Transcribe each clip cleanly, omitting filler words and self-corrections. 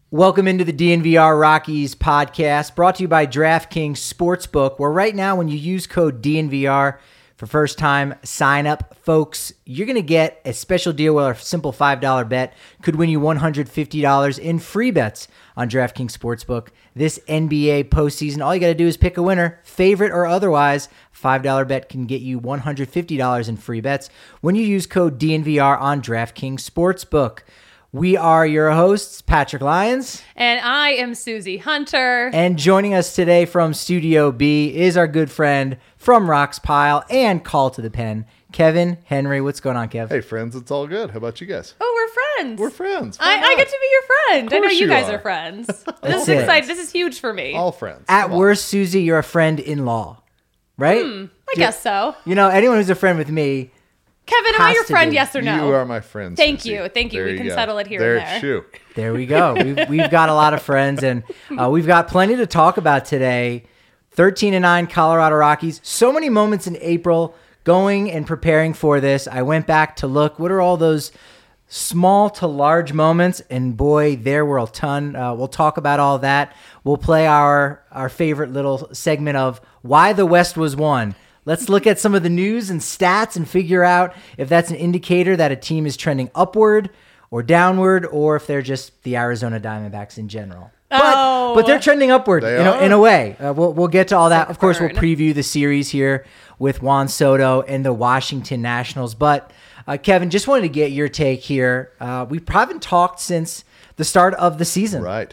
Welcome into the DNVR Rockies podcast, brought to you by DraftKings Sportsbook, where right now when you use code DNVR for first-time sign-up, folks, you're going to get a special deal where a simple $5 bet could win you $150 in free bets on DraftKings Sportsbook. This NBA postseason, all you got to do is pick a winner, favorite or otherwise. $5 bet can get you $150 in free bets when you use code DNVR on DraftKings Sportsbook. We are your hosts, Patrick Lyons. And I am Susie Hunter. And joining us today from Studio B is our good friend from Rocks Pile and Call to the Pen, Kevin Henry. What's going on, Kev? Hey, friends, it's all good. How about you guys? Oh, we're friends. We're friends. I get to be your friend. I know you guys are are friends. This That's is it. exciting. This is huge for me. All friends. At Come on. worst, Susie, you're a friend-in-law, right? I guess so. You know, anyone who's a friend with me, Kevin, am I Has your to friend, be. yes or no? You are my friend. Thank Susie. you. Thank you. There We can go. settle it here and there. Shoot. there we go. We've got a lot of friends, and we've got plenty to talk about today. 13-9 Colorado Rockies. So many moments in April going and preparing for this. I went back to look. What are all those small to large moments? And boy, there were a ton. We'll talk about all that. We'll play our favorite little segment of Why the West Was Won. Let's look at some of the news and stats and figure out if that's an indicator that a team is trending upward or downward, or if they're just the Arizona Diamondbacks in general. But they're trending upward in a way. We'll get to all that. Of course, we'll preview the series here with Juan Soto and the Washington Nationals. But Kevin, just wanted to get your take here. We haven't talked since the start of the season. Right.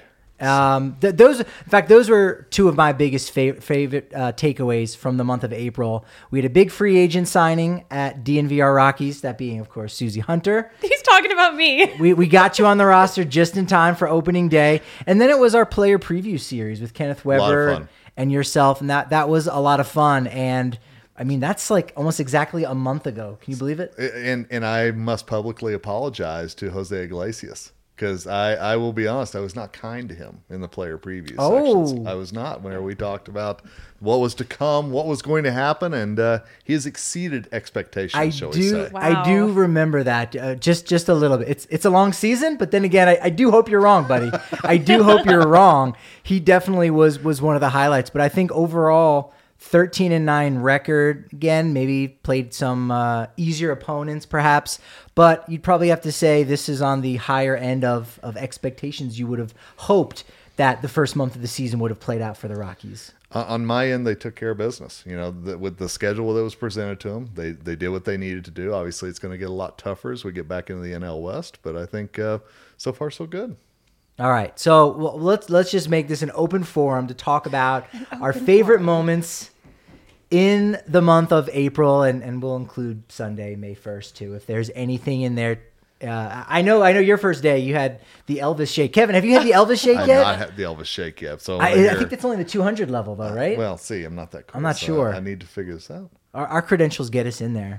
Those were two of my biggest favorite takeaways from the month of April. We had a big free agent signing at DNVR Rockies, that being, of course, Susie Hunter. He's talking about me. We got you on the roster just in time for opening day. And then it was our player preview series with Kenneth Weber fun. and yourself. And that was a lot of fun. And I mean, that's like almost exactly a month ago. Can you believe it? And I must publicly apologize to Jose Iglesias. Because I will be honest, I was not kind to him in the player preview sections. I was not, where we talked about what was to come, what was going to happen, and he has exceeded expectations, shall we say. Wow. I do remember that just a little bit. It's a long season, but then again, I do hope you're wrong, buddy. I do hope you're wrong. He definitely was one of the highlights, but I think overall 13-9 record. Again, maybe played some easier opponents perhaps, but you'd probably have to say this is on the higher end of expectations you would have hoped that the first month of the season would have played out for the Rockies. On my end, they took care of business. You know, with the schedule that was presented to them, they did what they needed to do. Obviously, it's going to get a lot tougher as we get back into the NL West, but I think so far so good. All right, so let's just make this an open forum to talk about our favorite moments in the month of April, and we'll include Sunday, May 1st, too, if there's anything in there. I know your first day, you had the Elvis shake. Kevin, have you had the Elvis shake I've yet? not had the Elvis shake yet. So I think that's only the 200 level, though, right? well, see, I'm not that cool. I'm not so sure. I need to figure this out. Our credentials get us in there.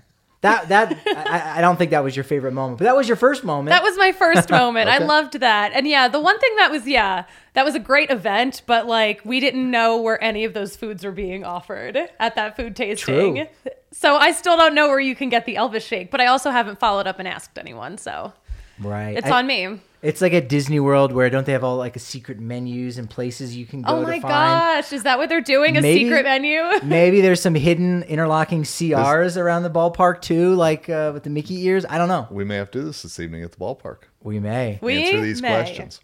I don't think that was your favorite moment, but that was your first moment. That was my first moment. I Okay. loved that. And yeah, the one thing that was a great event, but like we didn't know where any of those foods were being offered at that food tasting. True. So I still don't know where you can get the Elvis shake, but I also haven't followed up and asked anyone. So right. it's on me. It's like at Disney World where don't they have all like a secret menus and places you can go Oh to my find? gosh. Is that what they're doing? A Maybe- secret menu? Maybe there's some hidden interlocking CRs around the ballpark too, like with the Mickey ears. I don't know. We may have to do this evening at the ballpark. We may. Answer these questions.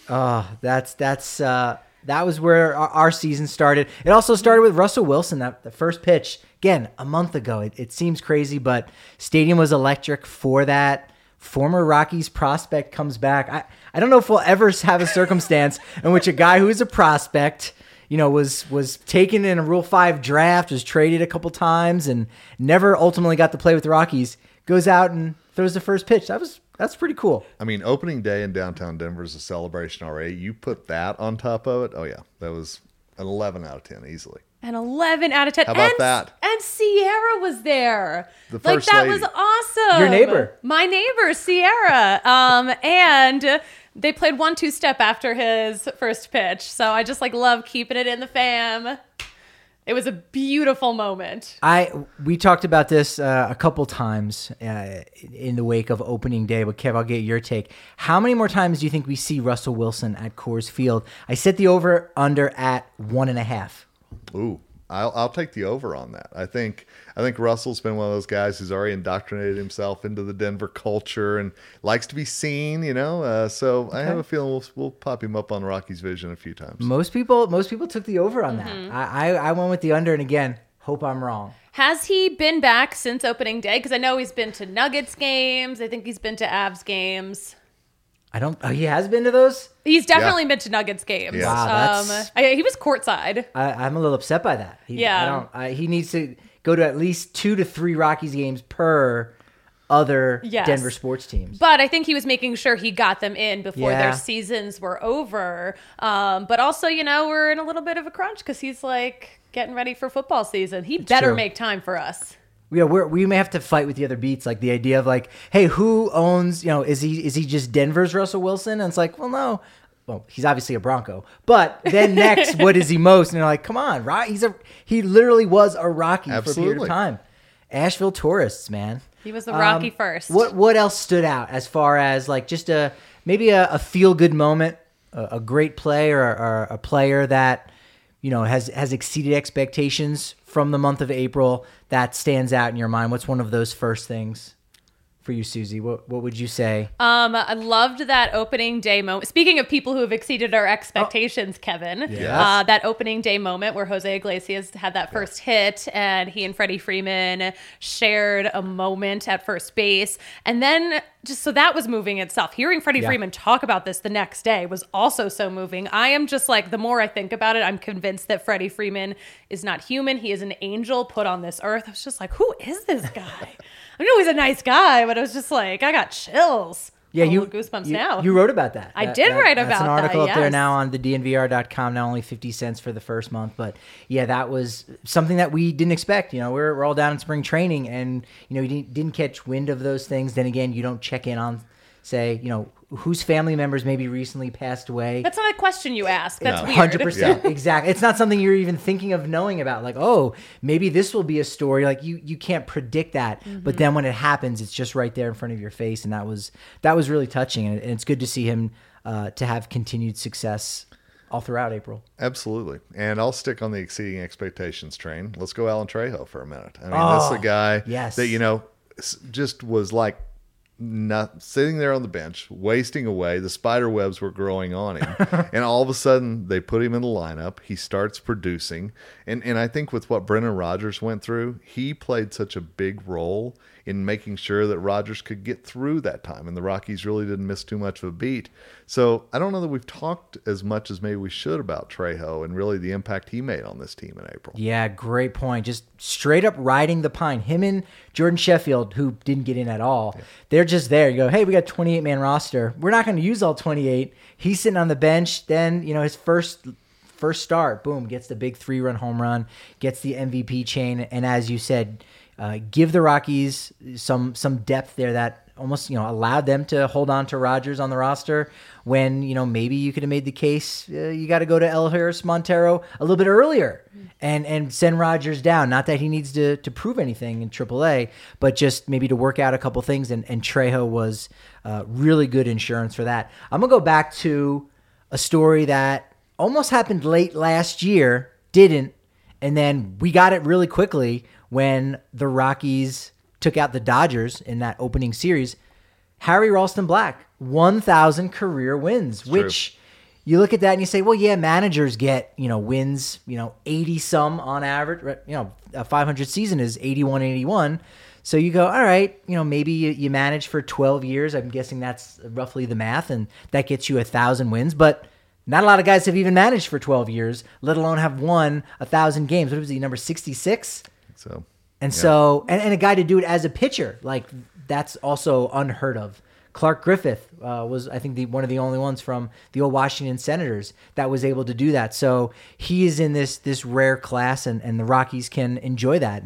That was where our season started. It also started with Russell Wilson, the first pitch. Again, a month ago. It seems crazy, but stadium was electric for that. Former Rockies prospect comes back. I don't know if we'll ever have a circumstance in which a guy who is a prospect, was taken in a Rule 5 draft, was traded a couple times, and never ultimately got to play with the Rockies, goes out and throws the first pitch. That's pretty cool. I mean, opening day in downtown Denver is a celebration already. You put that on top of it. Oh, yeah. That was an 11 out of 10 easily. An 11 out of 10. How about that? And Sierra was there. The first that lady. was awesome. Your neighbor. My neighbor, Sierra. And they played 1-2 step after his first pitch. So I just love keeping it in the fam. It was a beautiful moment. We talked about this a couple times in the wake of opening day, but Kev, I'll get your take. How many more times do you think we see Russell Wilson at Coors Field? I set the over under at 1.5. Ooh, I'll take the over on that. I think Russell's been one of those guys who's already indoctrinated himself into the Denver culture and likes to be seen, so okay. I have a feeling we'll pop him up on Rocky's Vision a few times. Most people took the over on that. I went with the under, and again, hope I'm wrong. Has he been back since opening day? Because I know he's been to Nuggets games. I think he's been to Avs games. He has been to those? He's definitely been to Nuggets games. Yeah. Wow, he was courtside. I'm a little upset by that. He needs to go to at least 2 to 3 Rockies games per other Denver sports teams. But I think he was making sure he got them in before their seasons were over. But also, we're in a little bit of a crunch because he's like getting ready for football season. He better make time for us. Yeah, we may have to fight with the other beats, like the idea of like, hey, who owns? Is he just Denver's Russell Wilson? And it's like, well, no. Well, he's obviously a Bronco, but then next, what is he most? And they're like, come on, he literally was a Rocky for a period of time. Asheville tourists, man. He was the Rocky first. What else stood out as far as like just maybe a feel good moment, a great play or a player that has exceeded expectations from the month of April that stands out in your mind? What's one of those first things for you, Susie? What would you say? I loved that opening day moment. Speaking of people who have exceeded our expectations, Kevin, that opening day moment where Jose Iglesias had that first hit and he and Freddie Freeman shared a moment at first base. And then so that was moving itself. Hearing Freddie Freeman talk about this the next day was also so moving. I am just like, the more I think about it, I'm convinced that Freddie Freeman is not human. He is an angel put on this earth. I was just like, who is this guy? I know he's a nice guy, but I was just like, I got chills. Yeah, goosebumps now. You wrote about that. I did write about that. That's an article up there now on the DNVR.com. Now only 50 cents for the first month, but yeah, that was something that we didn't expect. We're all down in spring training, and you didn't catch wind of those things. Then again, you don't check in on, say, whose family members maybe recently passed away. That's not a question you ask. That's weird. 100%. Exactly. It's not something you're even thinking of knowing about. Like, oh, maybe this will be a story. Like you can't predict that. Mm-hmm. But then when it happens, it's just right there in front of your face. And that was really touching. And it's good to see him to have continued success all throughout April. Absolutely. And I'll stick on the exceeding expectations train. Let's go Alan Trejo for a minute. I mean, this is a guy that, just was like, not sitting there on the bench, wasting away. The spider webs were growing on him. And all of a sudden, they put him in the lineup. He starts producing. And I think with what Brendan Rodgers went through, he played such a big role in making sure that Rodgers could get through that time. And the Rockies really didn't miss too much of a beat. So I don't know that we've talked as much as maybe we should about Trejo and really the impact he made on this team in April. Yeah, great point. Just straight up riding the pine. Him and Jordan Sheffield, who didn't get in at all, they're just there. You go, hey, we got a 28-man roster. We're not going to use all 28. He's sitting on the bench. Then, his first start, boom, gets the big 3-run home run, gets the MVP chain. And as you said, give the Rockies some depth there that almost allowed them to hold on to Rodgers on the roster when maybe you could have made the case you got to go to Eleuteris Montero a little bit earlier and send Rodgers down. Not that he needs to prove anything in AAA, but just maybe to work out a couple things. And Trejo was really good insurance for that. I'm gonna go back to a story that almost happened late last year, didn't, and then we got it really quickly when the Rockies took out the Dodgers in that opening series. Harry Ralston Black, 1,000 career wins, which you look at that and you say, well, yeah, managers get, wins, 80 some on average, a 500 season is 81. So you go, all right, maybe you manage for 12 years. I'm guessing that's roughly the math, and that gets you 1,000 wins, but not a lot of guys have even managed for 12 years, let alone have won 1,000 games. What was he, number 66? So, and so, and a guy to do it as a pitcher, like that's also unheard of. Clark Griffith was, I think, one of the only ones from the old Washington Senators that was able to do that. So he is in this rare class, and the Rockies can enjoy that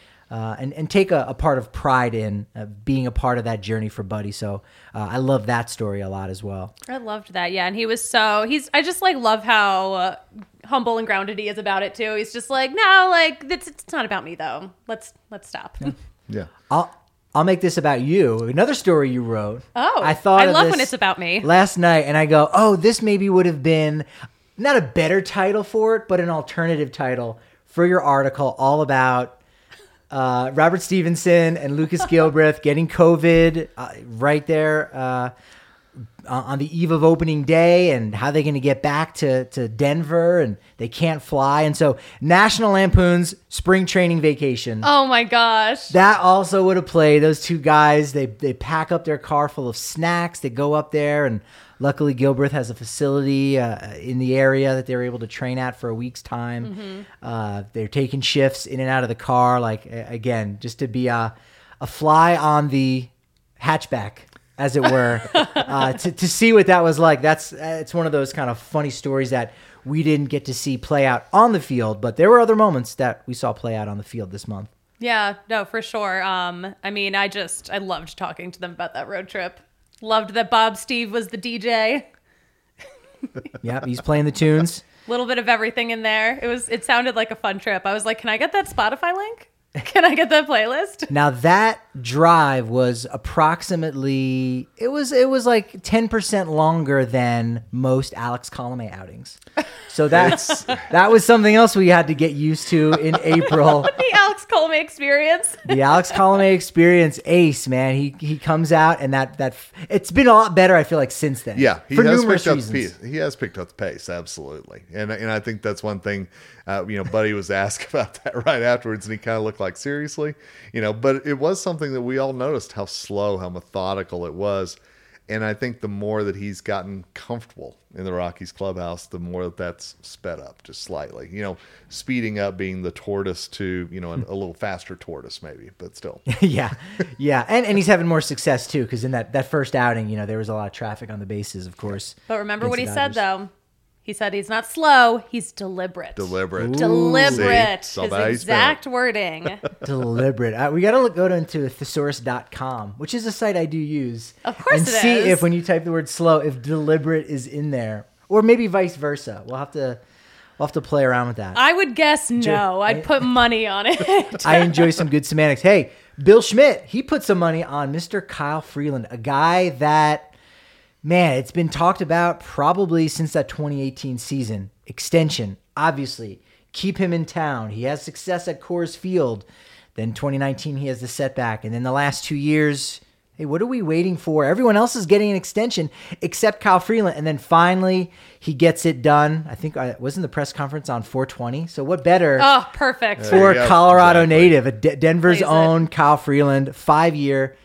and take a part of pride in being a part of that journey for Buddy. So I love that story a lot as well. I loved that. Yeah. And he was I just love how humble and grounded he is about it too. He's just like, no, like it's not about me though. Let's stop. Yeah. I'll make this about you. Another story you wrote. Oh, I love when it's about me. Last night, and I go, oh, this maybe would have been not a better title for it, but an alternative title for your article all about Robert Stevenson and Lucas Gilbreth getting COVID right there on the eve of opening day, and how they're going to get back to Denver, and they can't fly. And so National Lampoon's Spring Training Vacation. Oh my gosh. That also would have played. Those two guys, they pack up their car full of snacks. They go up there, and luckily Gilbreth has a facility in the area that they were able to train at for a week's time. They're taking shifts in and out of the car, like, again, just to be a fly on the hatchback, as it were, to see what that was like. It's one of those kind of funny stories that we didn't get to see play out on the field, but there were other moments that we saw play out on the field this month. Yeah, no, for sure. I mean, I loved talking to them about that road trip. Loved that Bob Steve was the DJ. Yeah, he's playing the tunes. A little bit of everything in there. It sounded like a fun trip. I was like, can I get that Spotify link? Can I get that playlist? Now that drive was approximately, it was like 10% longer than most Alex Colomé outings. So that was something else we had to get used to in April. The Alex Colomé experience. The Alex Colomé experience, ace, man. He comes out, and that it's been a lot better, I feel like, since then. Yeah, for numerous reasons. He has picked up the pace, absolutely. And I think that's one thing, Buddy was asked about that right afterwards, and he kind of looked like, seriously? But it was something that we all noticed, how slow, how methodical it was. And I think the more that he's gotten comfortable in the Rockies clubhouse, the more that's sped up just slightly. Speeding up being the tortoise to, a little faster tortoise maybe, but still. Yeah. And he's having more success too, because in that first outing, there was a lot of traffic on the bases, of course. But remember what he said, though. He said he's not slow, he's deliberate. Deliberate. Deliberate. See? His exact wording. Deliberate. We got to go into thesaurus.com, which is a site I do use. Of course and see if when you type the word slow, if deliberate is in there. Or maybe vice versa. We'll have to play around with that. I would guess no. I'd put money on it. I enjoy some good semantics. Hey, Bill Schmidt, he put some money on Mr. Kyle Freeland, a guy that... Man, it's been talked about probably since that 2018 season. Extension, obviously. Keep him in town. He has success at Coors Field. Then 2019, he has the setback. And then the last 2 years, hey, what are we waiting for? Everyone else is getting an extension except Kyle Freeland. And then finally, he gets it done. I think I was in the press conference on 420. So what better? Oh, perfect. For a Colorado native, Denver's own Kyle Freeland, 5-year,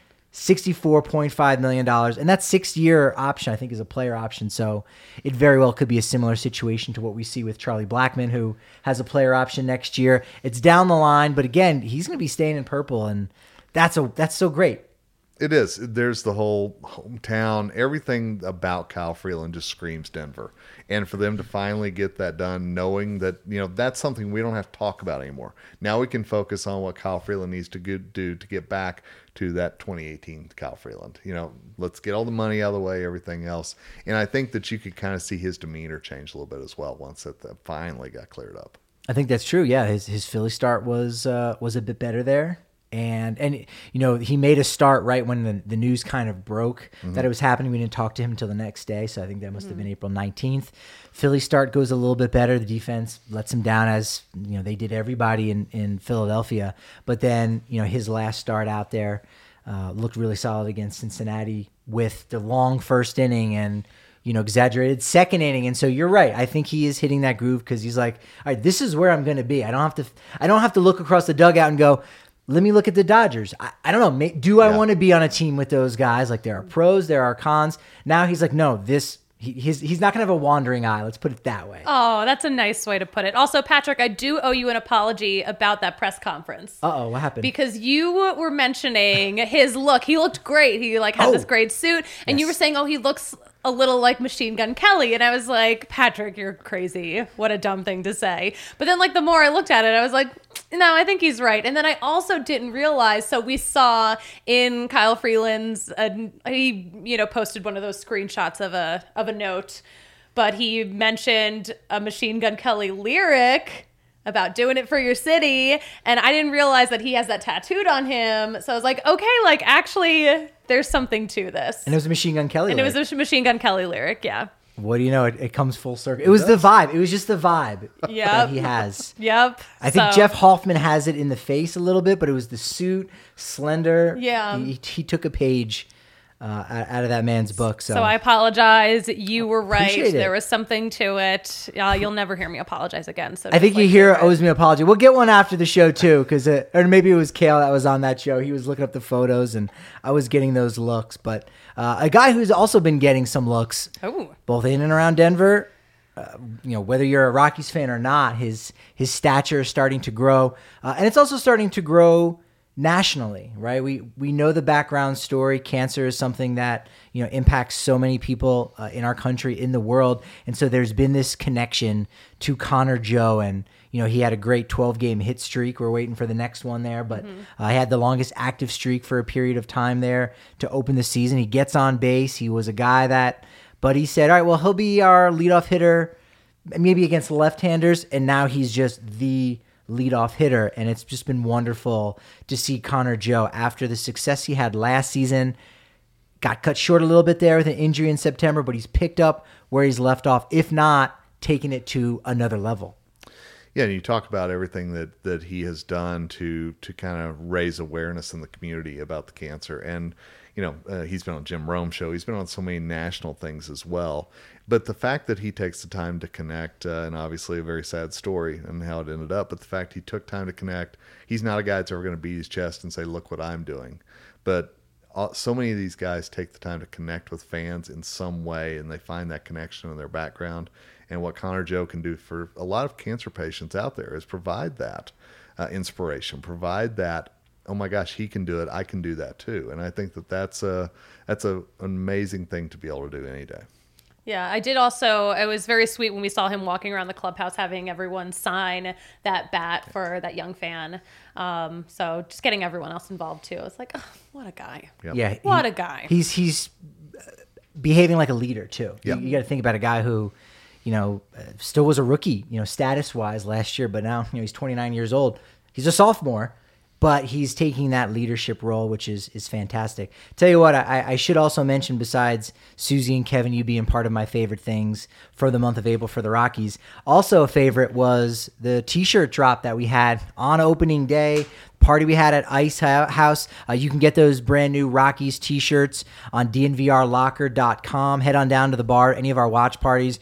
$64.5 million. And that 6-year option, I think, is a player option. So it very well could be a similar situation to what we see with Charlie Blackmon, who has a player option next year. It's down the line, but again, he's going to be staying in purple, and that's so great. It is. There's the whole hometown. Everything about Kyle Freeland just screams Denver. And for them to finally get that done, knowing that, that's something we don't have to talk about anymore. Now we can focus on what Kyle Freeland needs to do to get back to that 2018 Kyle Freeland. Let's get all the money out of the way, everything else. And I think that you could kind of see his demeanor change a little bit as well once that finally got cleared up. I think that's true. Yeah, his Philly start was a bit better there. And he made a start right when the news kind of broke that it was happening. We didn't talk to him until the next day, so I think that must have been April 19th. Philly start goes a little bit better. The defense lets him down, as they did everybody in Philadelphia. But then his last start out there looked really solid against Cincinnati with the long first inning and exaggerated second inning. And so you're right. I think he is hitting that groove because he's like, all right, this is where I'm going to be. I don't have to look across the dugout and go, let me look at the Dodgers. I don't know. Do I want to be on a team with those guys? Like, there are pros, there are cons. Now he's like, no, he's not going to have a wandering eye. Let's put it that way. Oh, that's a nice way to put it. Also, Patrick, I do owe you an apology about that press conference. Uh-oh, what happened? Because you were mentioning his look. He looked great. He had this great suit. And you were saying, he looks a little like Machine Gun Kelly. And I was like, Patrick, you're crazy. What a dumb thing to say. But then the more I looked at it, I was like, no, I think he's right. And then I also didn't realize, so we saw in Kyle Freeland's, he posted one of those screenshots of a note but he mentioned a Machine Gun Kelly lyric about doing it for your city, and I didn't realize that he has that tattooed on him. So I was like, okay, like actually there's something to this. And it was a Machine Gun Kelly lyric. It was a Machine Gun Kelly lyric, yeah. What do you know? It comes full circle. It was the vibe. It was just the vibe that he has. Yep. I think Jeff Hoffman has it in the face a little bit, but it was the suit, slender. Yeah. He took a page out of that man's book. So I apologize. You were right. Appreciate it. There was something to it. You'll never hear me apologize again. So I think you hear owes me an apology. We'll get one after the show too, because or maybe it was Kale that was on that show. He was looking up the photos, and I was getting those looks. But a guy who's also been getting some looks, both in and around Denver. Whether you're a Rockies fan or not, his stature is starting to grow, and it's also starting to grow nationally, right? We know the background story. Cancer is something that impacts so many people in our country, in the world, and so there's been this connection to Connor Joe, and he had a great 12-game hit streak. We're waiting for the next one there, but he had the longest active streak for a period of time there to open the season. He gets on base. He was a guy that Buddy said, all right, well, he'll be our leadoff hitter, maybe against left-handers, and now he's just the leadoff hitter, and it's just been wonderful to see Connor Joe, after the success he had last season, got cut short a little bit there with an injury in September, but he's picked up where he's left off, if not taking it to another level. Yeah, and you talk about everything that he has done to kind of raise awareness in the community about the cancer. And, he's been on Jim Rome's show. He's been on so many national things as well. But the fact that he takes the time to connect, and obviously a very sad story and how it ended up, but the fact he took time to connect, he's not a guy that's ever going to beat his chest and say, look what I'm doing. But so many of these guys take the time to connect with fans in some way, and they find that connection in their background. And what Connor Joe can do for a lot of cancer patients out there is provide that inspiration, provide that, oh my gosh, he can do it, I can do that too. And I think that's an amazing thing to be able to do any day. Yeah, I did also, it was very sweet when we saw him walking around the clubhouse having everyone sign that bat for that young fan. So just getting everyone else involved too. It's like, oh, what a guy. Yep. Yeah. What a guy. He's behaving like a leader too. Yep. You got to think about a guy who, still was a rookie, status-wise last year, but now, he's 29 years old. He's a sophomore, but he's taking that leadership role, which is fantastic. Tell you what, I should also mention, besides Susie and Kevin, you being part of my favorite things for the month of April for the Rockies, also a favorite was the T-shirt drop that we had on opening day, party we had at Ice House. You can get those brand new Rockies T-shirts on dnvrlocker.com. Head on down to the bar, any of our watch parties.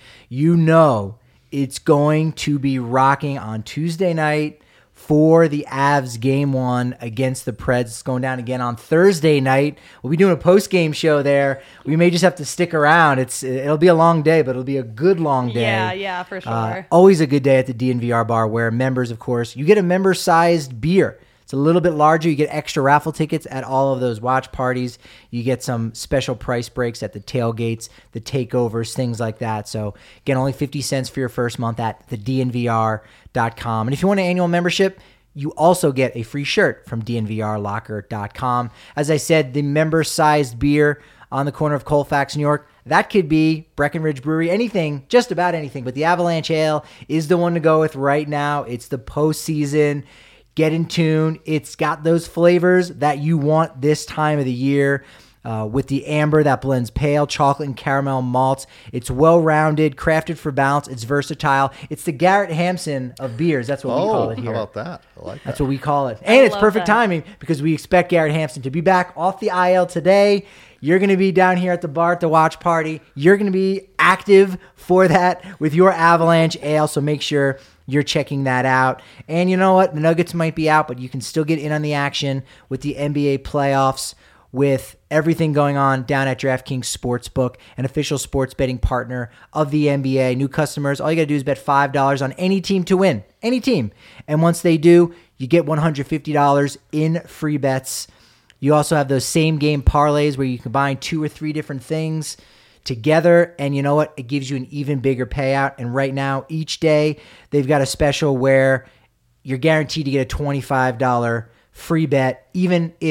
It's going to be rocking on Tuesday night for the Avs game 1 against the Preds. It's going down again on Thursday night. We'll be doing a post-game show there. We may just have to stick around. It'll be a long day, but it'll be a good long day. Yeah, for sure. Always a good day at the DNVR bar, where members, of course, you get a member-sized beer. It's a little bit larger. You get extra raffle tickets at all of those watch parties. You get some special price breaks at the tailgates, the takeovers, things like that. So, again, only 50 cents for your first month at thednvr.com. And if you want an annual membership, you also get a free shirt from dnvrlocker.com. As I said, the member-sized beer on the corner of Colfax, New York, that could be Breckenridge Brewery, anything, just about anything. But the Avalanche Ale is the one to go with right now. It's the postseason. Get in tune. It's got those flavors that you want this time of the year, with the amber that blends pale chocolate and caramel malts. It's well-rounded, crafted for balance. It's versatile. It's the Garrett Hampson of beers. That's what we call it here. How about that? I like that. That's what we call it. And it's perfect timing, because we expect Garrett Hampson to be back off the IL today. You're going to be down here at the bar at the watch party. You're going to be active for that with your Avalanche Ale, so make sure you're checking that out. And you know what? The Nuggets might be out, but you can still get in on the action with the NBA playoffs, with everything going on down at DraftKings Sportsbook, an official sports betting partner of the NBA. New customers, all you got to do is bet $5 on any team to win. Any team. And once they do, you get $150 in free bets. You also have those same game parlays where you combine 2 or 3 different things together, and you know what? It gives you an even bigger payout. And right now, each day, they've got a special where you're guaranteed to get a $25 free bet, even if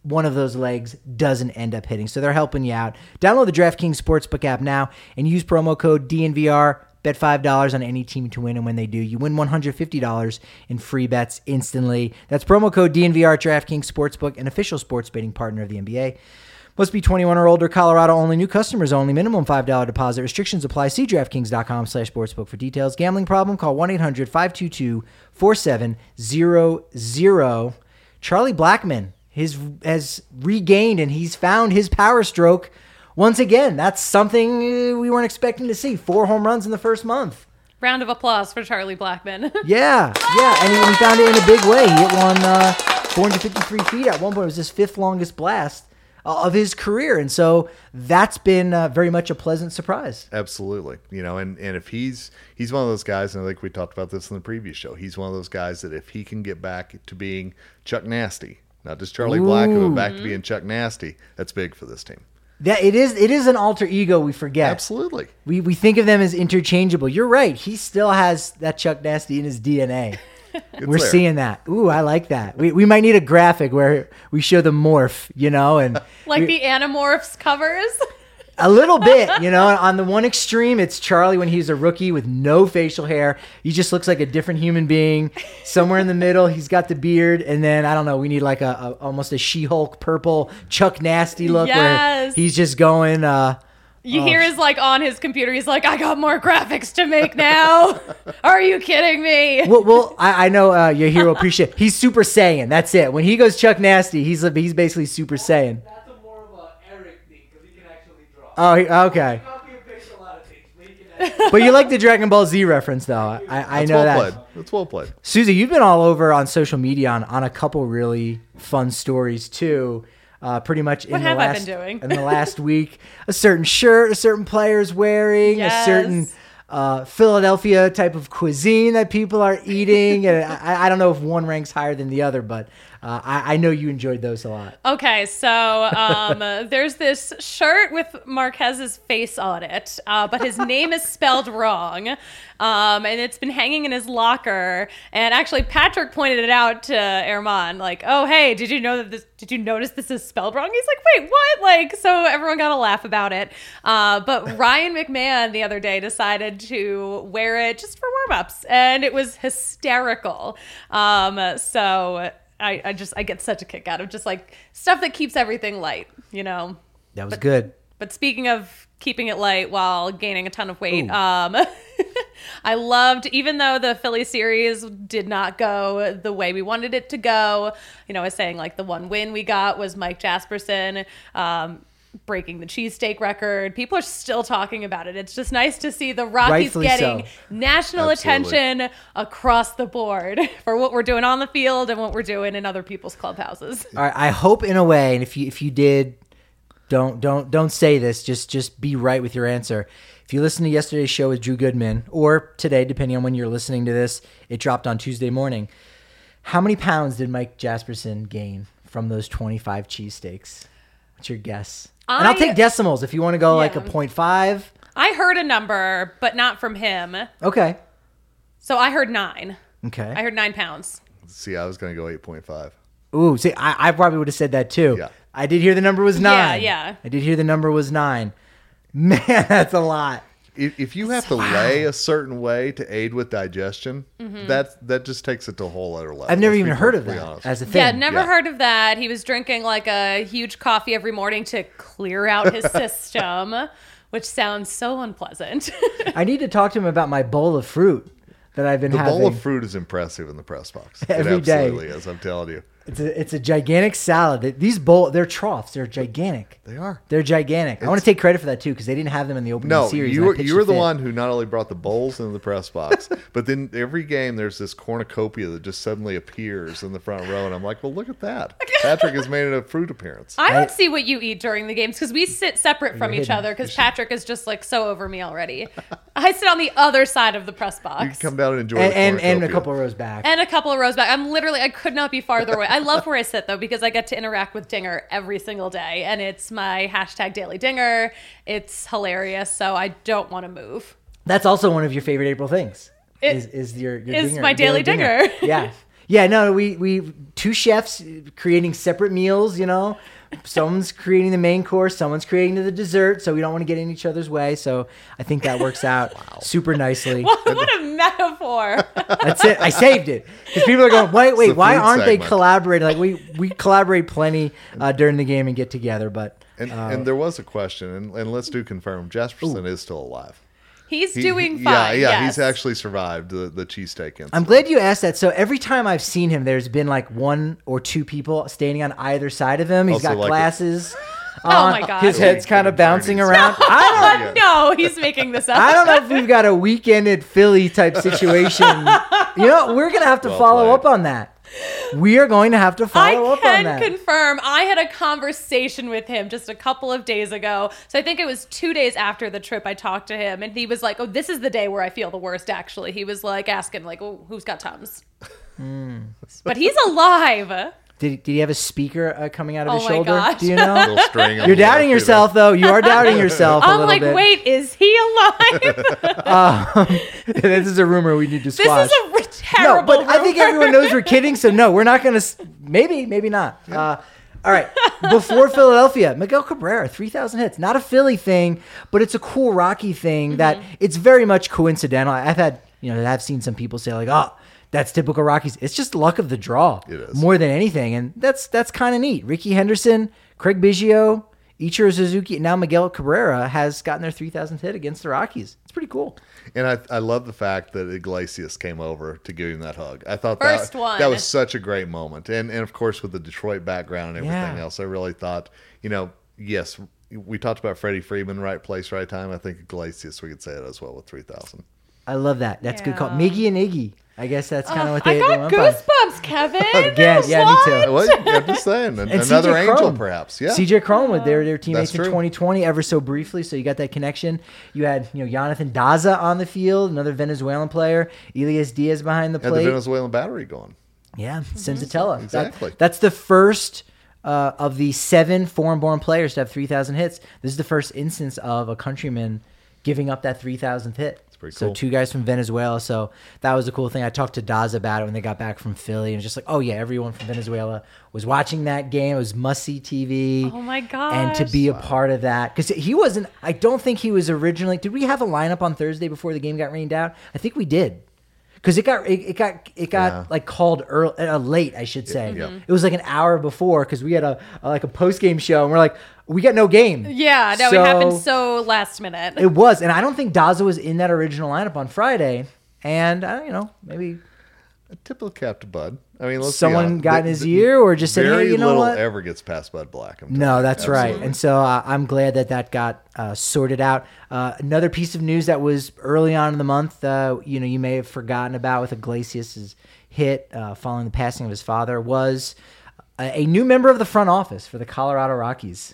one of those legs doesn't end up hitting. So they're helping you out. Download the DraftKings Sportsbook app now and use promo code DNVR. Bet $5 on any team to win, and when they do, you win $150 in free bets instantly. That's promo code DNVR at DraftKings Sportsbook, an official sports betting partner of the NBA. Must be 21 or older, Colorado only, new customers only, minimum $5 deposit. Restrictions apply. See DraftKings.com/sportsbook for details. Gambling problem? Call 1-800-522-4700. Charlie Blackmon has regained and he's found his power stroke once again. That's something we weren't expecting to see. 4 home runs in the first month. Round of applause for Charlie Blackmon. Yeah, and he found it in a big way. He hit one 453 feet at one point. It was his 5th longest blast of his career, and so that's been very much a pleasant surprise. Absolutely. And if he's one of those guys, and I think we talked about this in the previous show, he's one of those guys that if he can get back to being Chuck Nasty, not just Charlie Black, but back to being Chuck Nasty, that's big for this team. That it is an alter ego we forget. Absolutely. We think of them as interchangeable. You're right. He still has that Chuck Nasty in his DNA. We're there. Seeing that. Ooh, I like that. We might need a graphic where we show the morph, and like the Animorphs covers. A little bit, on the one extreme, it's Charlie when he's a rookie with no facial hair. He just looks like a different human being. Somewhere in the middle, he's got the beard. And then, I don't know, we need like almost a She-Hulk purple Chuck Nasty look where he's just going... You hear his on his computer. He's like, I got more graphics to make now. Are you kidding me? Well, I know your hero appreciate. He's Super Saiyan. That's it. When he goes Chuck Nasty, he's basically Super Saiyan. That's more of a Eric thing because he can actually draw. Oh, okay. But you like the Dragon Ball Z reference, though. I know that. That's well played. Susie, you've been all over on social media on a couple really fun stories too. Pretty much in the last week, a certain shirt, a certain player's wearing, a certain Philadelphia type of cuisine that people are eating. And I don't know if one ranks higher than the other, but I know you enjoyed those a lot. Okay, so there's this shirt with Marquez's face on it, but his name is spelled wrong. And it's been hanging in his locker. And actually, Patrick pointed it out to Erman, like, "Oh, hey, did you notice this is spelled wrong?" He's like, "Wait, what?" So everyone got a laugh about it. But Ryan McMahon the other day decided to wear it just for warm-ups, and it was hysterical. So I get such a kick out of just like stuff that keeps everything light, That was good. But speaking of keeping it light while gaining a ton of weight, I loved, even though the Philly series did not go the way we wanted it to go, I was saying like the one win we got was Mike Jasperson breaking the cheesesteak record. People are still talking about it. It's just nice to see the Rockies getting national attention across the board for what we're doing on the field and what we're doing in other people's clubhouses. All right, I hope in a way, and if you did, don't say this. Just be right with your answer. If you listen to yesterday's show with Drew Goodman, or today, depending on when you're listening to this, it dropped on Tuesday morning. How many pounds did Mike Jasperson gain from those 25 cheesesteaks? What's your guess? And I'll take decimals if you want to go like a 0.5. I heard a number, but not from him. Okay. So I heard 9. Okay. I heard 9 pounds. See, I was going to go 8.5. Ooh, see, I probably would have said that too. Yeah. I did hear the number was 9. Yeah. I did hear the number was 9. Man, that's a lot. If you have to lay a certain way to aid with digestion, that just takes it to a whole other level. I've never even heard of that as a thing. Yeah, never heard of that. He was drinking like a huge coffee every morning to clear out his system, which sounds so unpleasant. I need to talk to him about my bowl of fruit that I've been having. The bowl of fruit is impressive in the press box. Every it absolutely is, I'm telling you. It's a gigantic salad. These they're troughs. They're gigantic. They are. They're gigantic. I want to take credit for that too because they didn't have them in the opening series. You were the one who not only brought the bowls into the press box, but then every game there's this cornucopia that just suddenly appears in the front row, and I'm like, well, look at that. Patrick has made a fruit appearance. I don't see what you eat during the games because we sit separate from each other because Patrick is just like so over me already. I sit on the other side of the press box. You can come down and enjoy the cornucopia. And a couple of rows back. I could not be farther away. I love where I sit though because I get to interact with Dinger every single day, and it's my #Daily Dinger. It's hilarious, so I don't want to move. That's also one of your favorite April things. Is your is Dinger, my Daily Dinger. Yeah. Yeah, no, we two chefs creating separate meals, you know. Someone's creating the main course, someone's creating the dessert, so we don't want to get in each other's way. So I think that works out super nicely. What a metaphor. That's it. I saved it. Because people are going, wait, why aren't they segment. collaborating? Like we collaborate plenty during the game and get together, but And there was a question, and let's do confirm. Jesperson is still alive. He's doing fine. Yeah, yes. he's actually survived the cheesesteak incident. I'm glad you asked that. So every time I've seen him, there's been like one or two people standing on either side of him. He's Also got like glasses. Oh my God. His head's kind of bouncing around. I No, he's making this up. don't know if we've got a weekend at Philly type situation. You know, we're going to have to Well follow played. up on that. We are going to have to follow I up on can that. confirm I had a conversation with him just a couple of days ago. So I think it was 2 days after the trip I talked to him, and he was like, oh, this is the day where I feel the worst, actually. He was like asking, like, oh, who's got Tums? But he's alive. Did he have a speaker coming out of Oh his my shoulder? gosh. Do you know? Little string on You're the doubting left, yourself, though. You are doubting yourself a I'm little like, bit. wait, is he alive? This is a rumor we need to This squash. is a terrible No, but I think rumor. everyone knows we're kidding, so no, we're not going to. Maybe not. All right. Before Philadelphia, Miguel Cabrera, 3,000 hits. Not a Philly thing, but it's a cool Rocky thing that it's very much coincidental. I've seen some people say like, oh, that's typical Rockies. It's just luck of the draw. It is. More than anything, and that's kind of neat. Ricky Henderson, Craig Biggio, Ichiro Suzuki, and now Miguel Cabrera has gotten their 3,000th hit against the Rockies. It's pretty cool. And I love the fact that Iglesias came over to give him that hug. I thought First that one. that was such a great moment. And of course with the Detroit background and everything Yeah. else, I really thought, yes, we talked about Freddie Freeman, right place, right time. I think Iglesias, we could say it as well with 3,000. I love that. That's a good call. Yeah. Miggy and Iggy. I guess that's kind of what I they got went by. goosebumps, Kevin. Again, yeah, me too. Well, I'm just saying, And another CJ angel Cron. perhaps. Yeah. CJ Cron with their teammates That's in true. 2020 ever so briefly, so you got that connection. You had Jonathan Daza on the field, another Venezuelan player. Elias Diaz behind the Had the plate. Venezuelan battery going. Yeah, Senzatella. Exactly. That's the first of the 7 foreign-born players to have 3,000 hits. This is the first instance of a countryman giving up that 3,000th hit. pretty So cool. 2 guys from Venezuela. So that was a cool thing. I talked to Daza about it when they got back from Philly, and it was just like, oh yeah, everyone from Venezuela was watching that game. It was must-see TV. Oh my gosh. And to be a part of that, because he wasn't. I don't think he was originally. Did we have a lineup on Thursday before the game got rained out? I think we did. Because it got Yeah. like called early, late, I should say. Yeah. It was like an hour before because we had a post game show and we're like, we got no game. Yeah, no, So- it happened so last minute. It was, and I don't think Daza was in that original lineup on Friday. And maybe A typical cap to Bud. I mean, let's be someone honest. got in his ear or just said, Very hey, you know little what? ever gets past Bud Black. I'm No, telling you. that's right. Absolutely. And so I'm glad that got sorted out. Another piece of news that was early on in the month, you may have forgotten about with Iglesias' hit following the passing of his father was a new member of the front office for the Colorado Rockies.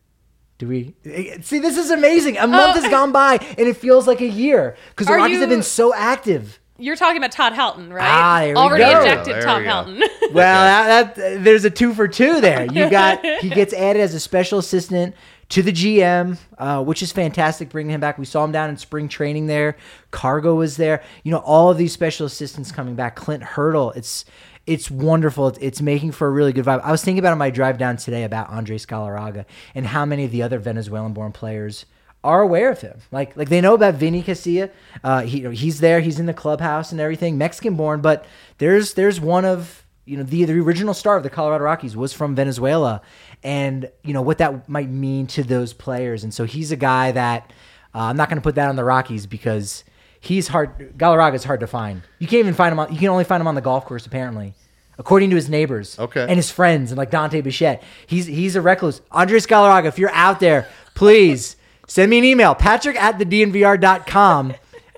Do we see? This is amazing. A month has gone by and it feels like a year because the Are Rockies have you- been so active. You're talking about Todd Helton, right? Ah, there we Already go. ejected There Tom we go. Helton. Well, there's a 2 for 2 there. He gets added as a special assistant to the GM, which is fantastic. Bringing him back, we saw him down in spring training there. Cargo was there. All of these special assistants coming back. Clint Hurdle. It's wonderful. It's making for a really good vibe. I was thinking about on my drive down today about Andres Galarraga and how many of the other Venezuelan-born players are aware of him. Like they know about Vinny Castilla. He's there. He's in the clubhouse and everything. Mexican-born, but there's one of the original star of the Colorado Rockies was from Venezuela, and what that might mean to those players. And so he's a guy that I'm not going to put that on the Rockies because he's hard. Galarraga's hard to find. You can't even find him. You can only find him on the golf course apparently. According to his neighbors Okay. and his friends and like Dante Bichette. He's a recluse. Andres Galarraga, if you're out there, please send me an email, patrick@thednvr.com.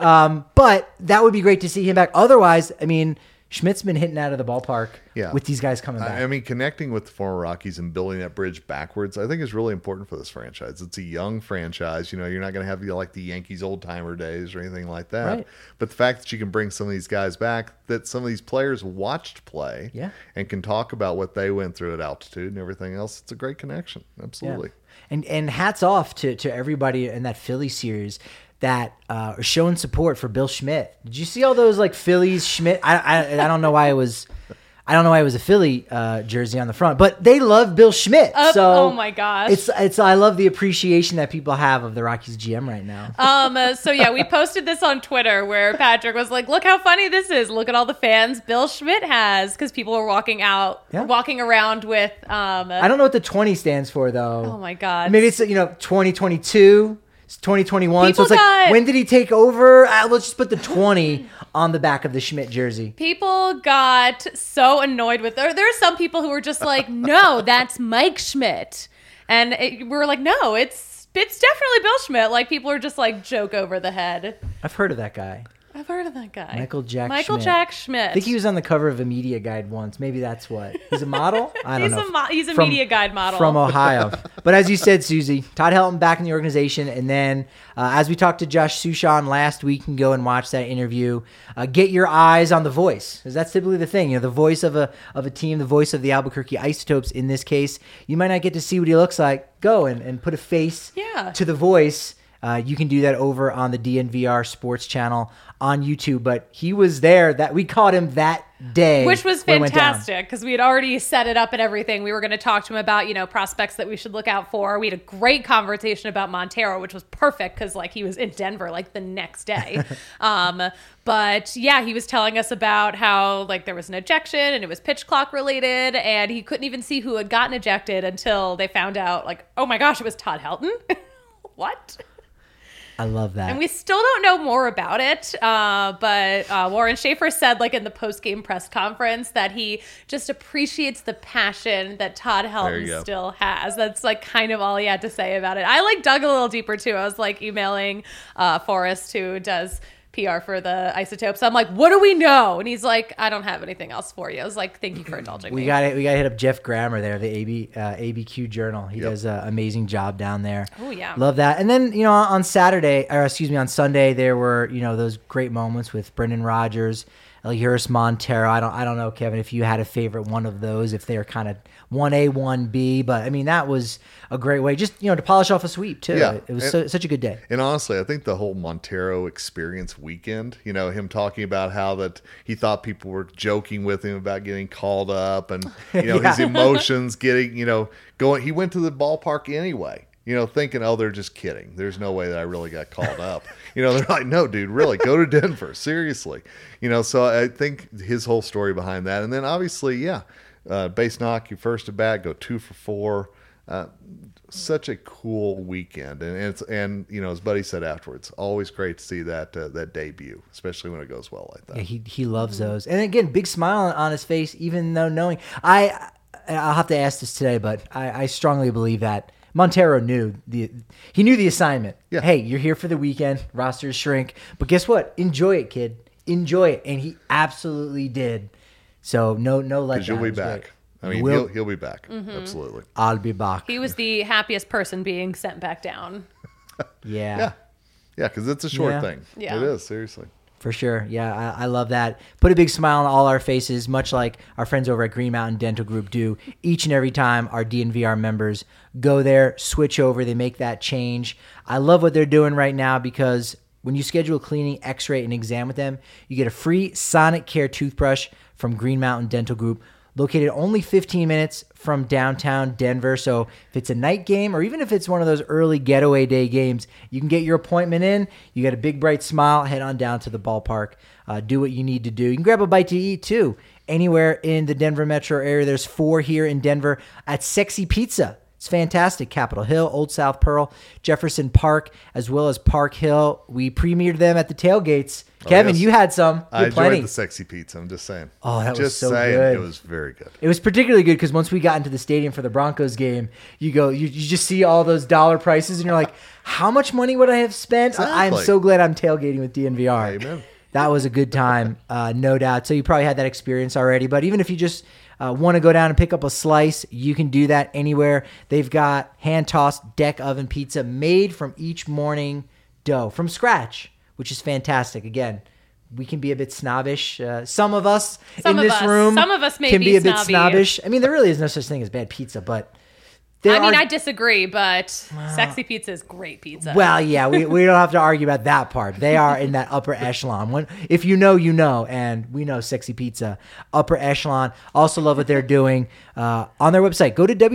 But that would be great to see him back. Otherwise, Schmidt's been hitting out of the ballpark with these guys coming back. I mean, connecting with the former Rockies and building that bridge backwards, I think is really important for this franchise. It's a young franchise. You're not going to have like the Yankees old timer days or anything like that. Right. But the fact that you can bring some of these guys back, that some of these players watched play and can talk about what they went through at altitude and everything else, it's a great connection. Absolutely. And hats off to everybody in that Philly series that are showing support for Bill Schmidt. Did you see all those like Phillies Schmidt? I don't know why it was I don't know why it was a Philly jersey on the front, but they love Bill Schmidt. Oh my gosh. It's I love the appreciation that people have of the Rockies GM right now. So yeah, we posted this on Twitter where Patrick was like, look how funny this is. Look at all the fans Bill Schmidt has, because people were walking around with I don't know what the 20 stands for though. Oh my God. Maybe it's 2022. It's 2021. People so it's like, when did he take over? Let's just put the 20 on the back of the Schmidt jersey. People got so annoyed with there. There are some people who were just like, no, that's Mike Schmidt. And we were like, no, it's definitely Bill Schmidt. Like, people are just like joke over the head. I've heard of that guy. I've heard of that guy. Michael Jack Schmidt. I think he was on the cover of a media guide once. Maybe that's what. He's a model? I don't know. He's a media guide model. From Ohio. But as you said, Susie, Todd Helton back in the organization. And then as we talked to Josh Sushan last week, you can go and watch that interview. Get your eyes on the voice, because that's typically the thing. The voice of a team, the voice of the Albuquerque Isotopes in this case. You might not get to see what he looks like. Go and put a face to the voice. You can do that over on the DNVR Sports channel on YouTube. But he was there. That we caught him that day, which was fantastic because we had already set it up and everything. We were going to talk to him about prospects that we should look out for. We had a great conversation about Montero, which was perfect because he was in Denver the next day. But yeah, he was telling us about how there was an ejection and it was pitch clock related, and he couldn't even see who had gotten ejected until they found out oh my gosh, it was Todd Helton. What? I love that. And we still don't know more about it. But Warren Schaefer said in the post-game press conference that he just appreciates the passion that Todd Helton still has. That's kind of all he had to say about it. I dug a little deeper too. I was emailing Forrest, who does PR for the Isotopes. I'm like, what do we know? And he's like, I don't have anything else for you. I was like, thank you for indulging me. We got to hit up Jeff Grammer there, the ABQ Journal. He does an amazing job down there. Oh yeah, love that. And then on Sunday there were those great moments with Brendan Rodgers, Elihuris Montero. I don't know, Kevin, if you had a favorite one of those, if they're kind of 1A, 1B, but I mean that was a great way just to polish off a sweep too. Yeah, it was such a good day. And honestly, I think the whole Montero experience weekend, him talking about how that he thought people were joking with him about getting called up, and his emotions getting going. He went to the ballpark anyway. Thinking, oh, they're just kidding. There's no way that I really got called up. They're like, no, dude, really, go to Denver. Seriously. So I think his whole story behind that. And then obviously, base knock, you first at bat, go 2 for 4. Such a cool weekend. And his buddy said afterwards, always great to see that debut, especially when it goes well like that. Yeah, he loves those. And again, big smile on his face, even though knowing, I'll have to ask this today, but I strongly believe that Montero knew the assignment. Yeah. Hey, you're here for the weekend. Rosters shrink, but guess what? Enjoy it, kid. Enjoy it, and he absolutely did. So no letdown. Because you'll be back. I mean, he'll be back. Mm-hmm. Absolutely. I'll be back. He was the happiest person being sent back down. Yeah. Yeah, because it's a short thing. Yeah. It is, seriously. For sure. Yeah, I love that. Put a big smile on all our faces, much like our friends over at Green Mountain Dental Group do each and every time our DNVR members go there, switch over, they make that change. I love what they're doing right now because when you schedule a cleaning, x-ray, and exam with them, you get a free Sonic Care toothbrush from Green Mountain Dental Group, located only 15 minutes from downtown Denver. So if it's a night game or even if it's one of those early getaway day games, you can get your appointment in. You get a big, bright smile. Head on down to the ballpark. Do what you need to do. You can grab a bite to eat, too. Anywhere in the Denver metro area. There's 4 here in Denver at Sexy Pizza. It's fantastic. Capitol Hill, Old South Pearl, Jefferson Park, as well as Park Hill. We premiered them at the tailgates. Kevin, you had some. I enjoyed the Sexy Pizza. I'm just saying. Oh, that was so good. It was very good. It was particularly good because once we got into the stadium for the Broncos game, you just see all those dollar prices, and you're like, how much money would I have spent? Exactly. I'm so glad I'm tailgating with DNVR. Amen. That was a good time, no doubt. So you probably had that experience already. But even if you just want to go down and pick up a slice, you can do that anywhere. They've got hand-tossed deck oven pizza made from each morning dough from scratch, which is fantastic. Again, we can be a bit snobbish. Some of us in this room some of us may can be a bit snobbish. I mean, there really is no such thing as bad pizza, but I disagree, but Sexy Pizza is great pizza. Well, yeah, we don't have to argue about that part. They are in that upper echelon. If you know, you know, and we know Sexy Pizza, upper echelon. Also love what they're doing on their website. Go to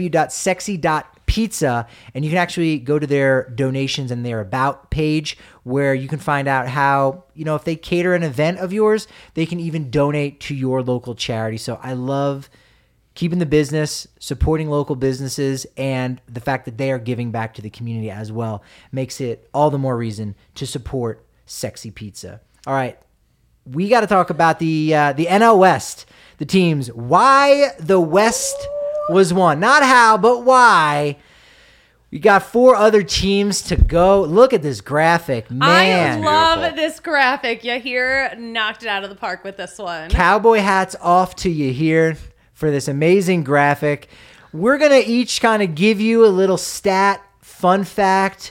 www.sexy.pizza, and you can actually go to their donations and their about page where you can find out how, if they cater an event of yours, they can even donate to your local charity. So I love keeping the business, supporting local businesses, and the fact that they are giving back to the community as well makes it all the more reason to support Sexy Pizza. All right, we got to talk about the NL West, the teams. Why the West was won. Not how, but why. We got 4 other teams to go. Look at this graphic, man. I love this graphic. Yahir knocked it out of the park with this one. Cowboy hats off to Yahir for this amazing graphic. We're going to each kind of give you a little stat, fun fact,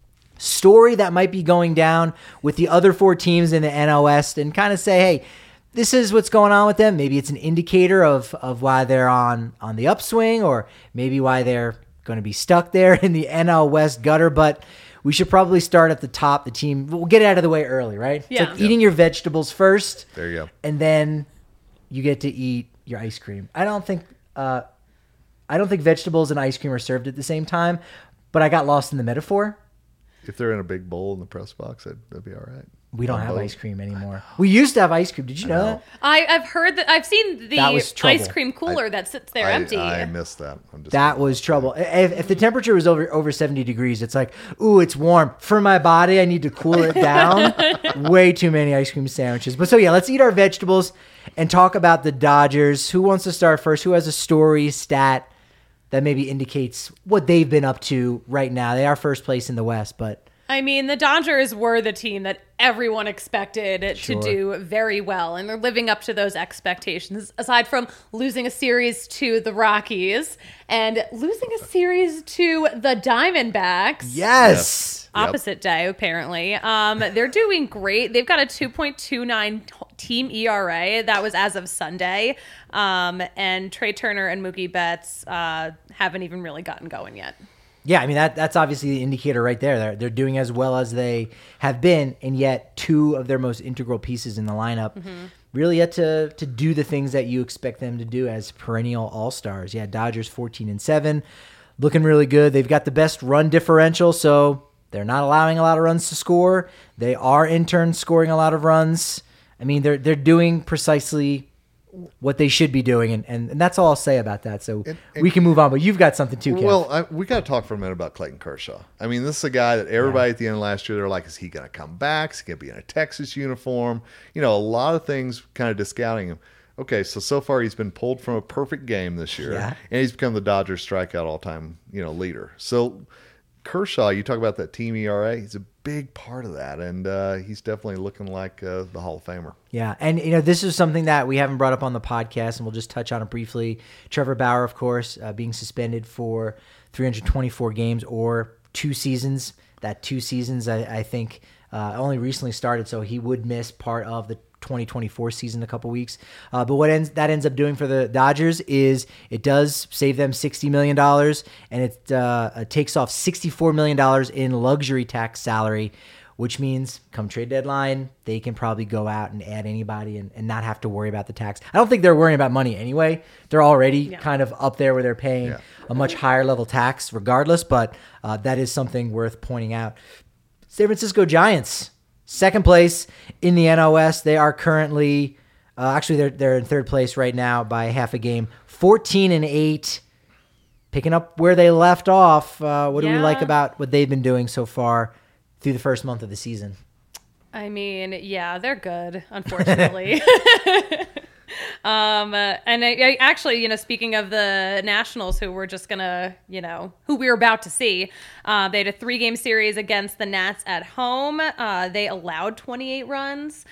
story that might be going down with the other 4 teams in the NL West and kind of say, hey, this is what's going on with them. Maybe it's an indicator of why they're on the upswing, or maybe why they're going to be stuck there in the NL West gutter. But we should probably start at the top. The team, we'll get it out of the way early, right? Yeah. It's like eating your vegetables first. There you go. And then you get to eat your ice cream. I don't think vegetables and ice cream are served at the same time, but I got lost in the metaphor. If they're in a big bowl in the press box, that'd be all right. We don't have ice cream anymore. We used to have ice cream. Did you know that? I've heard that. I've seen the ice cream cooler that sits there empty. I missed that. That was trouble. If the temperature was over 70 degrees, it's like, ooh, it's warm. For my body, I need to cool it down. Way too many ice cream sandwiches. But so yeah, let's eat our vegetables and talk about the Dodgers. Who wants to start first? Who has a story, stat that maybe indicates what they've been up to right now? They are first place in the West, but... I mean, the Dodgers were the team that everyone expected to do very well, and they're living up to those expectations, aside from losing a series to the Rockies and losing a series to the Diamondbacks. Yes. Opposite day, apparently. They're doing great. They've got a 2.29 team ERA. That was as of Sunday. And Trey Turner and Mookie Betts haven't even really gotten going yet. Yeah, I mean, that's obviously the indicator right there. They're doing as well as they have been, and yet 2 of their most integral pieces in the lineup really yet to do the things that you expect them to do as perennial all-stars. Yeah, Dodgers 14-7, looking really good. They've got the best run differential, so they're not allowing a lot of runs to score. They are in turn scoring a lot of runs. I mean, they're doing precisely what they should be doing, and that's all I'll say about that. So we can move on, but you've got something too, Kev. Well, we got to talk for a minute about Clayton Kershaw. I mean, this is a guy that everybody at the end of last year, they're like, is he going to come back? Is he going to be in a Texas uniform? A lot of things kind of discounting him. Okay, so far he's been pulled from a perfect game this year, and he's become the Dodgers strikeout all-time leader. So Kershaw, you talk about that team ERA, he's a big part of that, and he's definitely looking like the Hall of Famer. Yeah, and this is something that we haven't brought up on the podcast, and we'll just touch on it briefly. Trevor Bauer, of course, being suspended for 324 games or 2 seasons. That 2 seasons, I think, only recently started, so he would miss part of the 2024 season a couple weeks. But what that ends up doing for the Dodgers is it does save them $60 million, and it takes off $64 million in luxury tax salary, which means come trade deadline, they can probably go out and add anybody and not have to worry about the tax. I don't think they're worrying about money anyway. They're already kind of up there where they're paying a much higher level tax regardless, but that is something worth pointing out. San Francisco Giants, second place in the NL West. They are currently, they're in third place right now by half a game, 14-8, picking up where they left off. What do we like about what they've been doing so far through the first month of the season? I mean, yeah, they're good, unfortunately. And I actually, speaking of the Nationals, who we're just gonna, who we're about to see, they had a 3-game series against the Nats at home. They allowed 28 runs.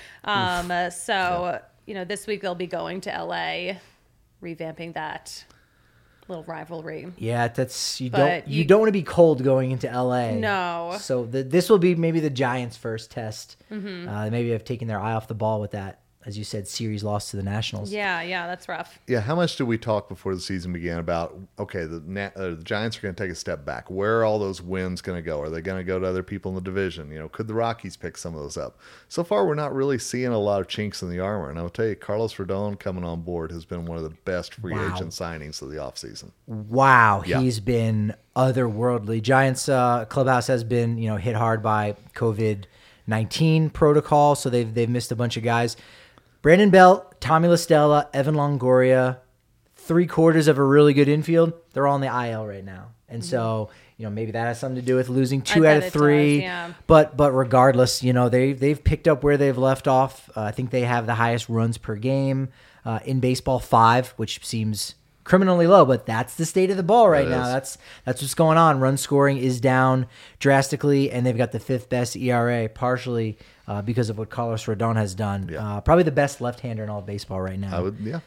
This week they'll be going to LA, revamping that little rivalry. Yeah, that's you don't want to be cold going into LA. No. So this will be maybe the Giants' first test. Maybe have taken their eye off the ball with that as you said, series loss to the Nationals. Yeah, that's rough. Yeah, how much did we talk before the season began about, okay, the Giants are going to take a step back. Where are all those wins going to go? Are they going to go to other people in the division? Could the Rockies pick some of those up? So far, we're not really seeing a lot of chinks in the armor. And I'll tell you, Carlos Rodon coming on board has been one of the best free agent signings of the offseason. Wow, he's been otherworldly. Giants clubhouse has been, hit hard by COVID-19 protocol, so they've missed a bunch of guys. Brandon Belt, Tommy LaStella, Evan Longoria, 3/4 of a really good infield. They're all in the IL right now. And so, maybe that has something to do with losing 2 out of 3. Does, yeah. But regardless, they've picked up where they've left off. I think they have the highest runs per game in baseball, 5, which seems criminally low, but that's the state of the ball right now. That's what's going on. Run scoring is down drastically, and they've got the 5th best ERA, partially because of what Carlos Rodon has done. Yeah. Probably the best left-hander in all of baseball right now. I would, yeah.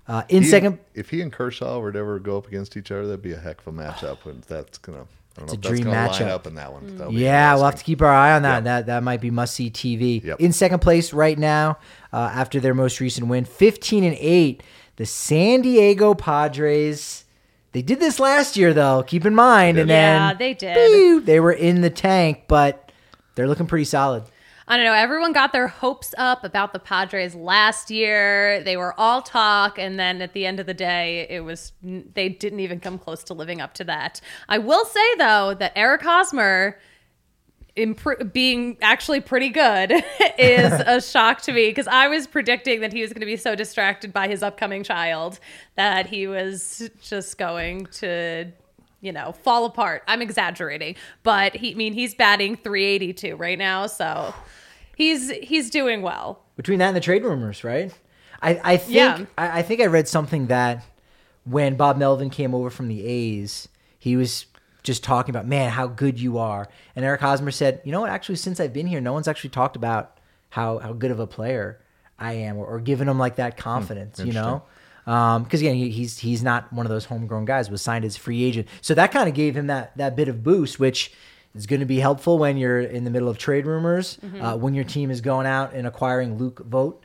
If he and Kershaw were to ever go up against each other, that'd be a heck of a matchup. And that's gonna, I don't know if that's gonna line up in that one. Yeah, we'll have to keep our eye on that. Yeah. That might be must-see TV. Yep. In second place right now, after their most recent win, 15-8, the San Diego Padres. They did this last year, though. Keep in mind, and then they did. They were in the tank, but they're looking pretty solid. I don't know. Everyone got their hopes up about the Padres last year. They were all talk, and then at the end of the day, they didn't even come close to living up to that. I will say, though, that Eric Hosmer being actually pretty good is a shock to me, because I was predicting that he was going to be so distracted by his upcoming child that he was just going to fall apart. I'm exaggerating, but he's batting .382 right now, so he's doing well. Between that and the trade rumors, right? I think I read something that when Bob Melvin came over from the A's, he was just talking about, man, how good you are. And Eric Hosmer said, you know what, actually, since I've been here, no one's actually talked about how good of a player I am, or given him like that confidence, Because again, he's not one of those homegrown guys. Was signed as a free agent, so that kind of gave him that bit of boost, which is going to be helpful when you're in the middle of trade rumors. When your team is going out and acquiring Luke Vogt.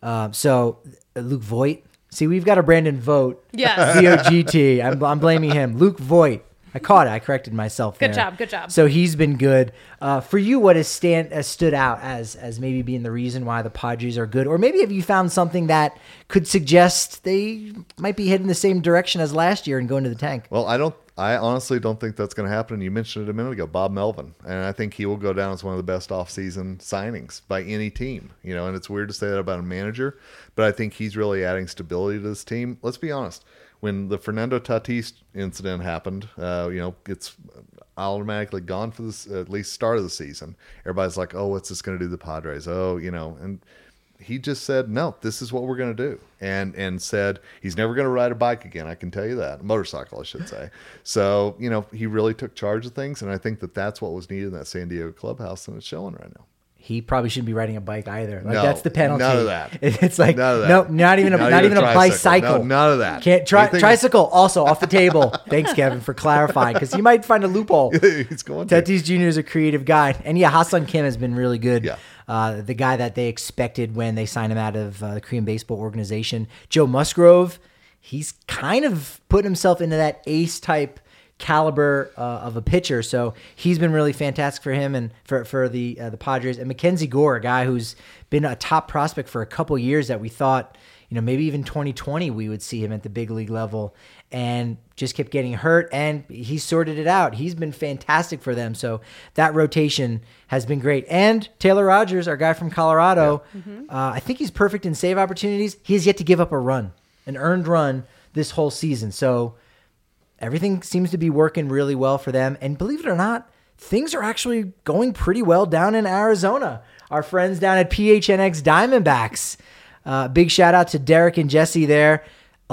Luke Voigt. See, we've got a Brandon Vogt. Yes. VOGT. I'm blaming him. Luke Voigt. I caught it. I corrected myself there. Good job. So he's been good. For you, what has stood out as maybe being the reason why the Padres are good? Or maybe have you found something that could suggest they might be heading the same direction as last year and going to the tank? Well, I honestly don't think that's going to happen. You mentioned it a minute ago, Bob Melvin. And I think he will go down as one of the best offseason signings by any team. And it's weird to say that about a manager, but I think he's really adding stability to this team. Let's be honest. When the Fernando Tatis incident happened, it's automatically gone for this at least start of the season. Everybody's like, "Oh, what's this going to do to the Padres?" And he just said, "No, this is what we're going to do," and said he's never going to ride a bike again. I can tell you that, motorcycle, I should say. So he really took charge of things, and I think that's what was needed in that San Diego clubhouse, and it's showing right now. He probably shouldn't be riding a bike either. That's the penalty. None of that. It's like no, not even a bicycle. No, none of that. Can't tricycle also off the table. Thanks, Kevin, for clarifying, because you might find a loophole. He's going to. Tatis Jr. is a creative guy, and Ha-Seong Kim has been really good. Yeah. The guy that they expected when they signed him out of the Korean Baseball Organization. Joe Musgrove, he's kind of put himself into that ace type caliber of a pitcher, so he's been really fantastic for him and for the Padres. And Mackenzie Gore, a guy who's been a top prospect for a couple years that we thought, maybe even 2020 we would see him at the big league level, and just kept getting hurt, and he sorted it out. He's been fantastic for them, so that rotation has been great. And Taylor Rogers, our guy from Colorado, I think he's perfect in save opportunities. He has yet to give up an earned run this whole season, so everything seems to be working really well for them. And believe it or not, things are actually going pretty well down in Arizona. Our friends down at PHNX Diamondbacks. Big shout out to Derek and Jesse there.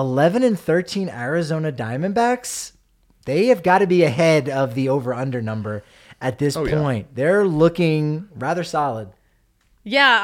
11-13 Arizona Diamondbacks. They have got to be ahead of the over-under number at this point. Yeah. They're looking rather solid. Yeah,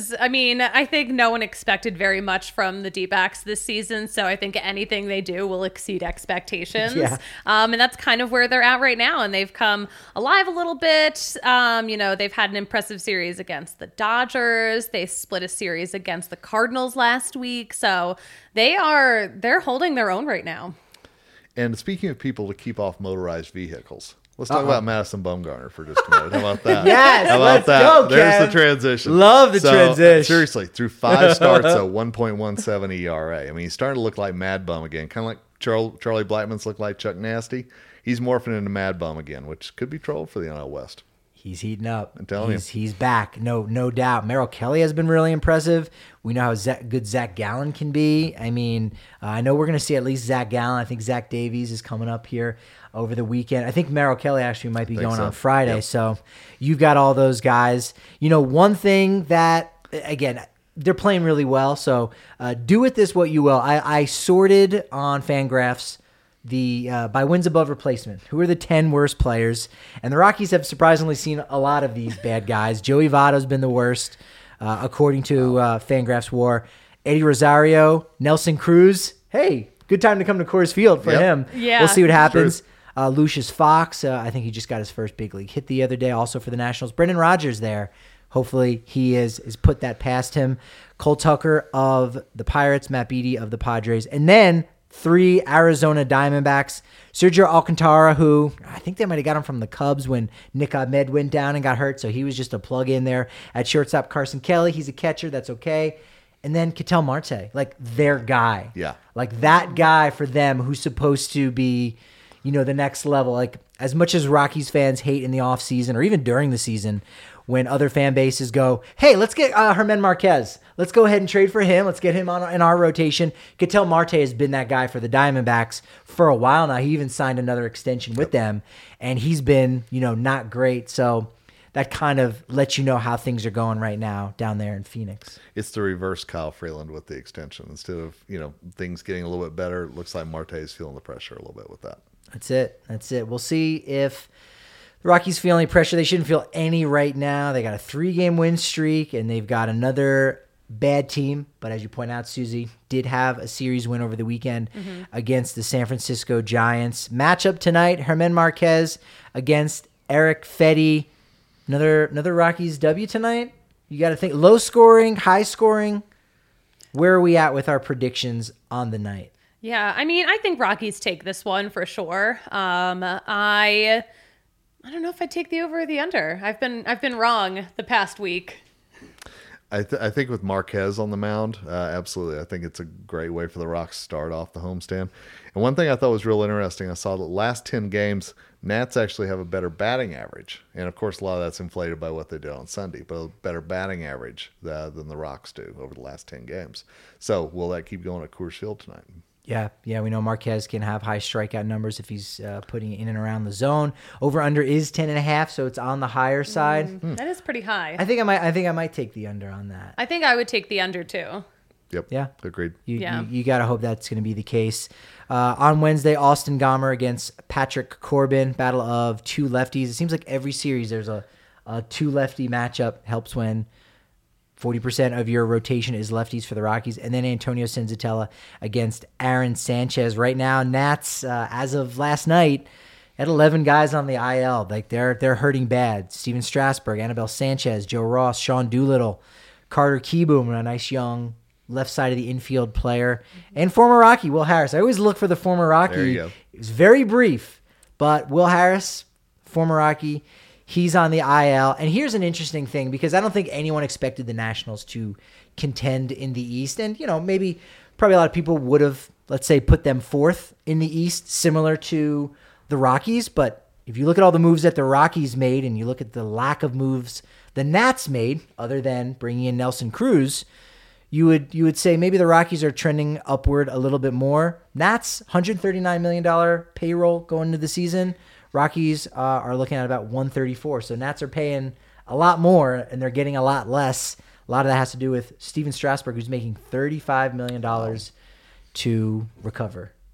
I think no one expected very much from the D-backs this season, so I think anything they do will exceed expectations. Yeah. And that's kind of where they're at right now, and they've come alive a little bit. They've had an impressive series against the Dodgers. They split a series against the Cardinals last week, so they're holding their own right now. And speaking of people to keep off motorized vehicles, let's talk about Madison Bumgarner for just a minute. How about that? Yes, how about let's that? go, There's Kev. the transition. Love the transition. Seriously, through 5 starts, a 1.17 ERA. I mean, he's starting to look like Mad Bum again, kind of like Charlie Blackmon's looked like Chuck Nasty. He's morphing into Mad Bum again, which could be trouble for the NL West. He's heating up. I'm telling you. He's back. No doubt. Merrill Kelly has been really impressive. We know how good Zach Gallen can be. I mean, I know we're going to see at least Zach Gallen. I think Zach Davies is coming up here over the weekend. I think Merrill Kelly actually might be going on Friday. Yep. So you've got all those guys. One thing that, again, they're playing really well. So do with this what you will. I sorted on Fangraphs by wins above replacement. Who are the 10 worst players? And the Rockies have surprisingly seen a lot of these bad guys. Joey Votto's been the worst, according to Fangraphs WAR. Eddie Rosario, Nelson Cruz. Hey, good time to come to Coors Field for him. Yeah. We'll see what happens. Lucius Fox, I think he just got his first big league hit the other day, also for the Nationals. Brendan Rodgers there. Hopefully he is put that past him. Cole Tucker of the Pirates, Matt Beattie of the Padres. And then 3 Arizona Diamondbacks. Sergio Alcantara, who I think they might have got him from the Cubs when Nick Ahmed went down and got hurt, so he was just a plug in there. At shortstop, Carson Kelly. He's a catcher. That's okay. And then Ketel Marte, like their guy. Yeah. Like that guy for them who's supposed to be, the next level. Like as much as Rockies fans hate in the offseason or even during the season when other fan bases go, hey, let's get Germán Marquez. Let's go ahead and trade for him. Let's get him in our rotation. Ketel Marte has been that guy for the Diamondbacks for a while now. He even signed another extension with them, and he's been, not great. So that kind of lets you know how things are going right now down there in Phoenix. It's the reverse Kyle Freeland with the extension. Instead of, things getting a little bit better, it looks like Marte is feeling the pressure a little bit with that. That's it. We'll see if the Rockies feel any pressure. They shouldn't feel any right now. They got a 3-game win streak, and they've got another bad team. But as you point out, Susie, did have a series win over the weekend against the San Francisco Giants. Matchup tonight, Germán Marquez against Eric Fedde. Another Rockies W tonight. You got to think low scoring, high scoring. Where are we at with our predictions on the night? Yeah, I think Rockies take this one for sure. I don't know if I'd take the over or the under. I've been wrong the past week. I think with Marquez on the mound, absolutely. I think it's a great way for the Rocks to start off the homestand. And one thing I thought was real interesting, I saw the last 10 games, Nats actually have a better batting average. And, of course, a lot of that's inflated by what they did on Sunday, but a better batting average than the Rocks do over the last 10 games. So will that keep going at Coors Field tonight? Yeah, we know Marquez can have high strikeout numbers if he's putting it in and around the zone. Over under is 10.5, so it's on the higher side. That is pretty high. I think I might take the under on that. I think I would take the under too. Yep. Yeah. Agreed. You got to hope that's going to be the case. On Wednesday, Austin Gomber against Patrick Corbin, battle of 2 lefties. It seems like every series there's a 2-lefty matchup. Helps when 40% of your rotation is lefties for the Rockies. And then Antonio Senzatella against Aaron Sanchez. Right now, Nats, as of last night, had 11 guys on the IL. Like they're hurting bad. Steven Strasburg, Anibal Sanchez, Joe Ross, Sean Doolittle, Carter Kieboom, a nice young left side of the infield player, and former Rocky Will Harris. I always look for the former Rocky. There you go. It was very brief, but Will Harris, former Rocky, he's on the IL. And here's an interesting thing, because I don't think anyone expected the Nationals to contend in the East. And, probably a lot of people would have, let's say, put them 4th in the East, similar to the Rockies. But if you look at all the moves that the Rockies made and you look at the lack of moves the Nats made, other than bringing in Nelson Cruz, you would say maybe the Rockies are trending upward a little bit more. Nats, $139 million payroll going into the season. Rockies are looking at about 134. So Nats are paying a lot more, and they're getting a lot less. A lot of that has to do with Steven Strasburg, who's making $35 million to recover.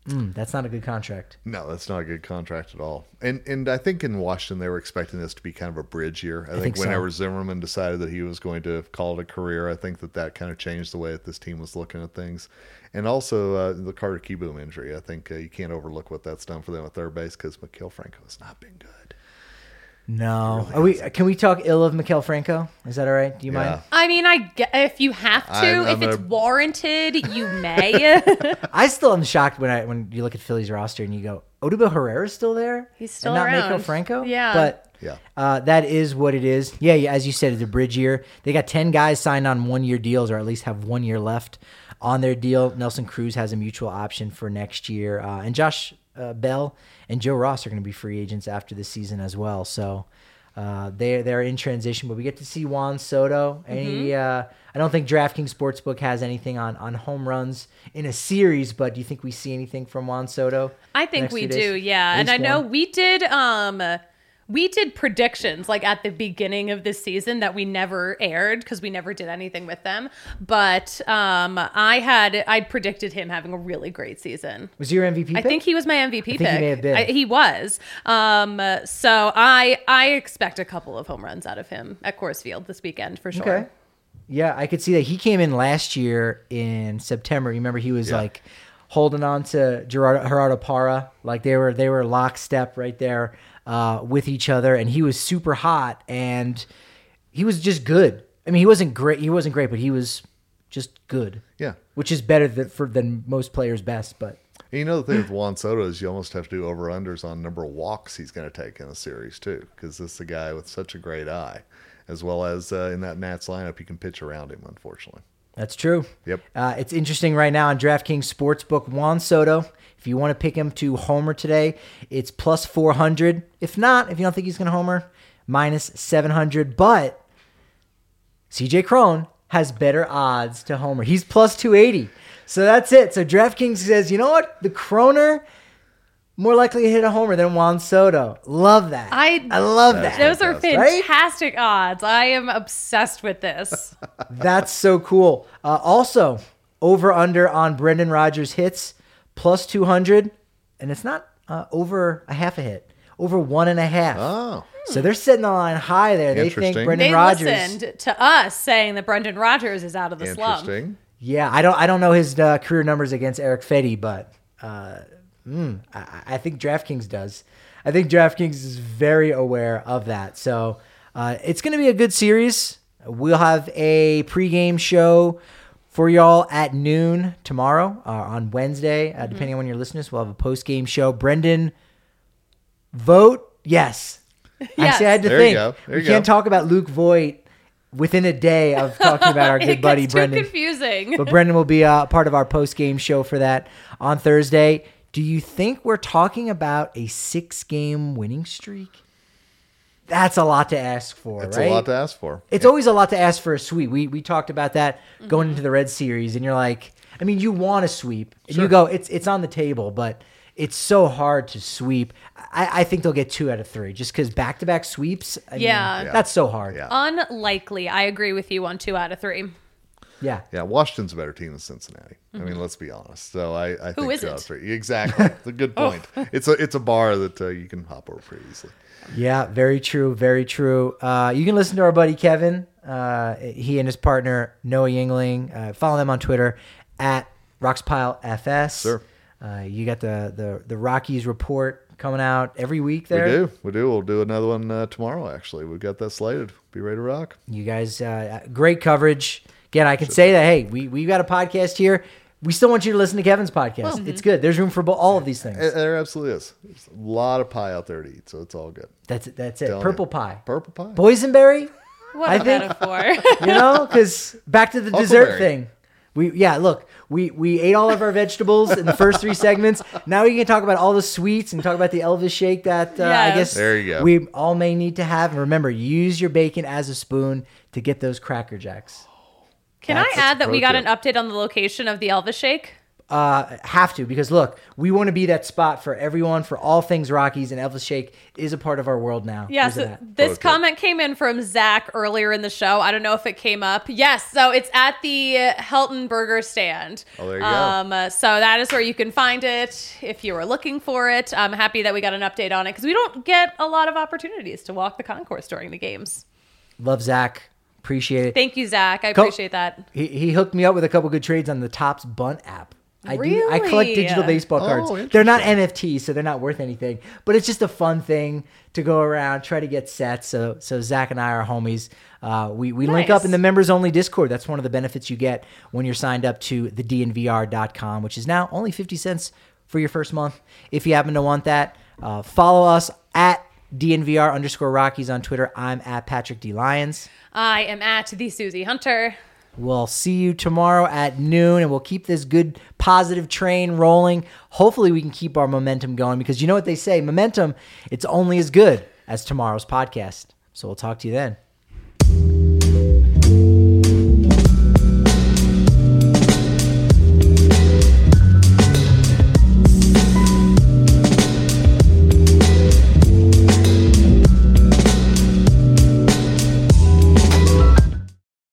That's not a good contract. No, that's not a good contract at all. And I think in Washington they were expecting this to be kind of a bridge year. I think whenever Zimmerman decided that he was going to call it a career, I think that kind of changed the way that this team was looking at things. And also the Carter Kieboom injury. I think you can't overlook what that's done for them at third base because Maikel Franco has not been good. No. Can we talk ill of Maikel Franco? Is that all right? Do you mind? I mean, if you have to, if it's warranted, you may. I still am shocked when you look at Philly's roster and you go, Odubel Herrera's still there? He's still and not around. Maikel Franco? Yeah. But that is what it is. Yeah, as you said, it's a bridge year. They got 10 guys signed on 1-year deals or at least have 1 year left on their deal. Nelson Cruz has a mutual option for next year. And Josh Bell and Joe Ross are going to be free agents after this season as well. So they're in transition, but we get to see Juan Soto. I don't think DraftKings Sportsbook has anything on home runs in a series, but do you think we see anything from Juan Soto? I think we do, yeah. And I know we did predictions like at the beginning of this season that we never aired because we never did anything with them. But I predicted him having a really great season. Was he your MVP pick? I think he was my MVP pick. He may have been. He was. So I expect a couple of home runs out of him at Coors Field this weekend for sure. Okay. Yeah, I could see that. He came in last year in September. You remember he was like holding on to Gerardo Parra. Like they were lockstep right there. With each other, and he was super hot, and he was just good. I mean, he wasn't great, but he was just good. Yeah, which is better than most players' best. But and you know the thing with Juan Soto is you almost have to do over-unders on number of walks he's going to take in a series too, because this is a guy with such a great eye, as well as in that Nats lineup, you can pitch around him. Unfortunately, that's true. Yep. It's interesting right now on DraftKings Sportsbook. Juan Soto, if you want to pick him to homer today, it's plus 400. If not, if you don't think he's going to homer, minus 700. But CJ Cron has better odds to homer. He's plus 280. So that's it. So DraftKings says, you know what? The Croner more likely to hit a homer than Juan Soto. Love that. I love that. Those are fantastic odds. I am obsessed with this. That's so cool. Also, over under on Brendan Rodgers hits, plus 200. And it's not over a half a hit, over 1.5. Oh. So they're setting the line high there. They think Brendan Rodgers. They listened to us saying that Brendan Rodgers is out of the slump. Yeah, I don't know his career numbers against Eric Fetty, but I think DraftKings does. I think DraftKings is very aware of that. So it's going to be a good series. We'll have a pregame show for y'all at noon tomorrow on Wednesday. Depending on when you're listening, we'll have a postgame show. Brendan, vote yes. Actually, I had to think. We can't talk about Luke Voigt within a day of talking about our good buddy Brendan. It's too confusing. But Brendan will be part of our post-game show for that on Thursday. Do you think we're talking about a 6-game winning streak? That's a lot to ask for, That's right? a lot to ask for. It's always a lot to ask for a sweep. We talked about that going into the Red Series, and you're like, I mean, you want a sweep. And you go, it's on the table, but it's so hard to sweep. I think they'll get 2 out of 3 just because back-to-back sweeps, I mean, that's so hard. Yeah. Unlikely. I agree with you on 2 out of 3. Yeah. Yeah, Washington's a better team than Cincinnati. I mean, let's be honest. So I think Who 2 out of isn't? 3. Exactly. It's a good point. It's a bar that you can hop over pretty easily. Yeah, very true. Very true. You can listen to our buddy Kevin. He and his partner Noah Yingling. Follow them on Twitter at RoxPileFS. Sure. You got the Rockies report coming out every week there. We do. We'll do another one tomorrow, actually. We've got that slated. Be ready to rock. You guys, great coverage. Again, I can say that, hey, we got a podcast here. We still want you to listen to Kevin's podcast. It's good. There's room for all of these things. There absolutely is. There's a lot of pie out there to eat, so it's all good. That's it. Telling Purple you. pie. Purple pie. Boysenberry? What a metaphor. Because back to the dessert thing. We ate all of our vegetables in the first 3 segments. Now we can talk about all the sweets and talk about the Elvis shake that I guess there you go. We all may need to have. And remember, use your bacon as a spoon to get those Cracker Jacks. Can I add that we got an update on the location of the Elvis shake? have to, because look, we want to be that spot for everyone, for all things Rockies, and Elvis Shake is a part of our world now. Yes, this comment came in from Zach earlier in the show. I don't know if it came up. Yes, so it's at the Helton Burger Stand. Oh, there you go. So that is where you can find it if you were looking for it. I'm happy that we got an update on it because we don't get a lot of opportunities to walk the concourse during the games. Love Zach. Appreciate it. Thank you, Zach. I appreciate that. He hooked me up with a couple good trades on the Topps Bunt app. I Really? collect digital baseball cards. They're not NFTs, so they're not worth anything. But it's just a fun thing to go around, try to get sets. So Zach and I are homies. We link up in the members only Discord. That's one of the benefits you get when you're signed up to the DNVR.com, which is now only 50 cents for your first month. If you happen to want that, follow us at DNVR_Rockies on Twitter. I'm at Patrick D. Lyons. I am at the Susie Hunter. We'll see you tomorrow at noon, and we'll keep this good, positive train rolling. Hopefully, we can keep our momentum going, because you know what they say, momentum, it's only as good as tomorrow's podcast. So we'll talk to you then.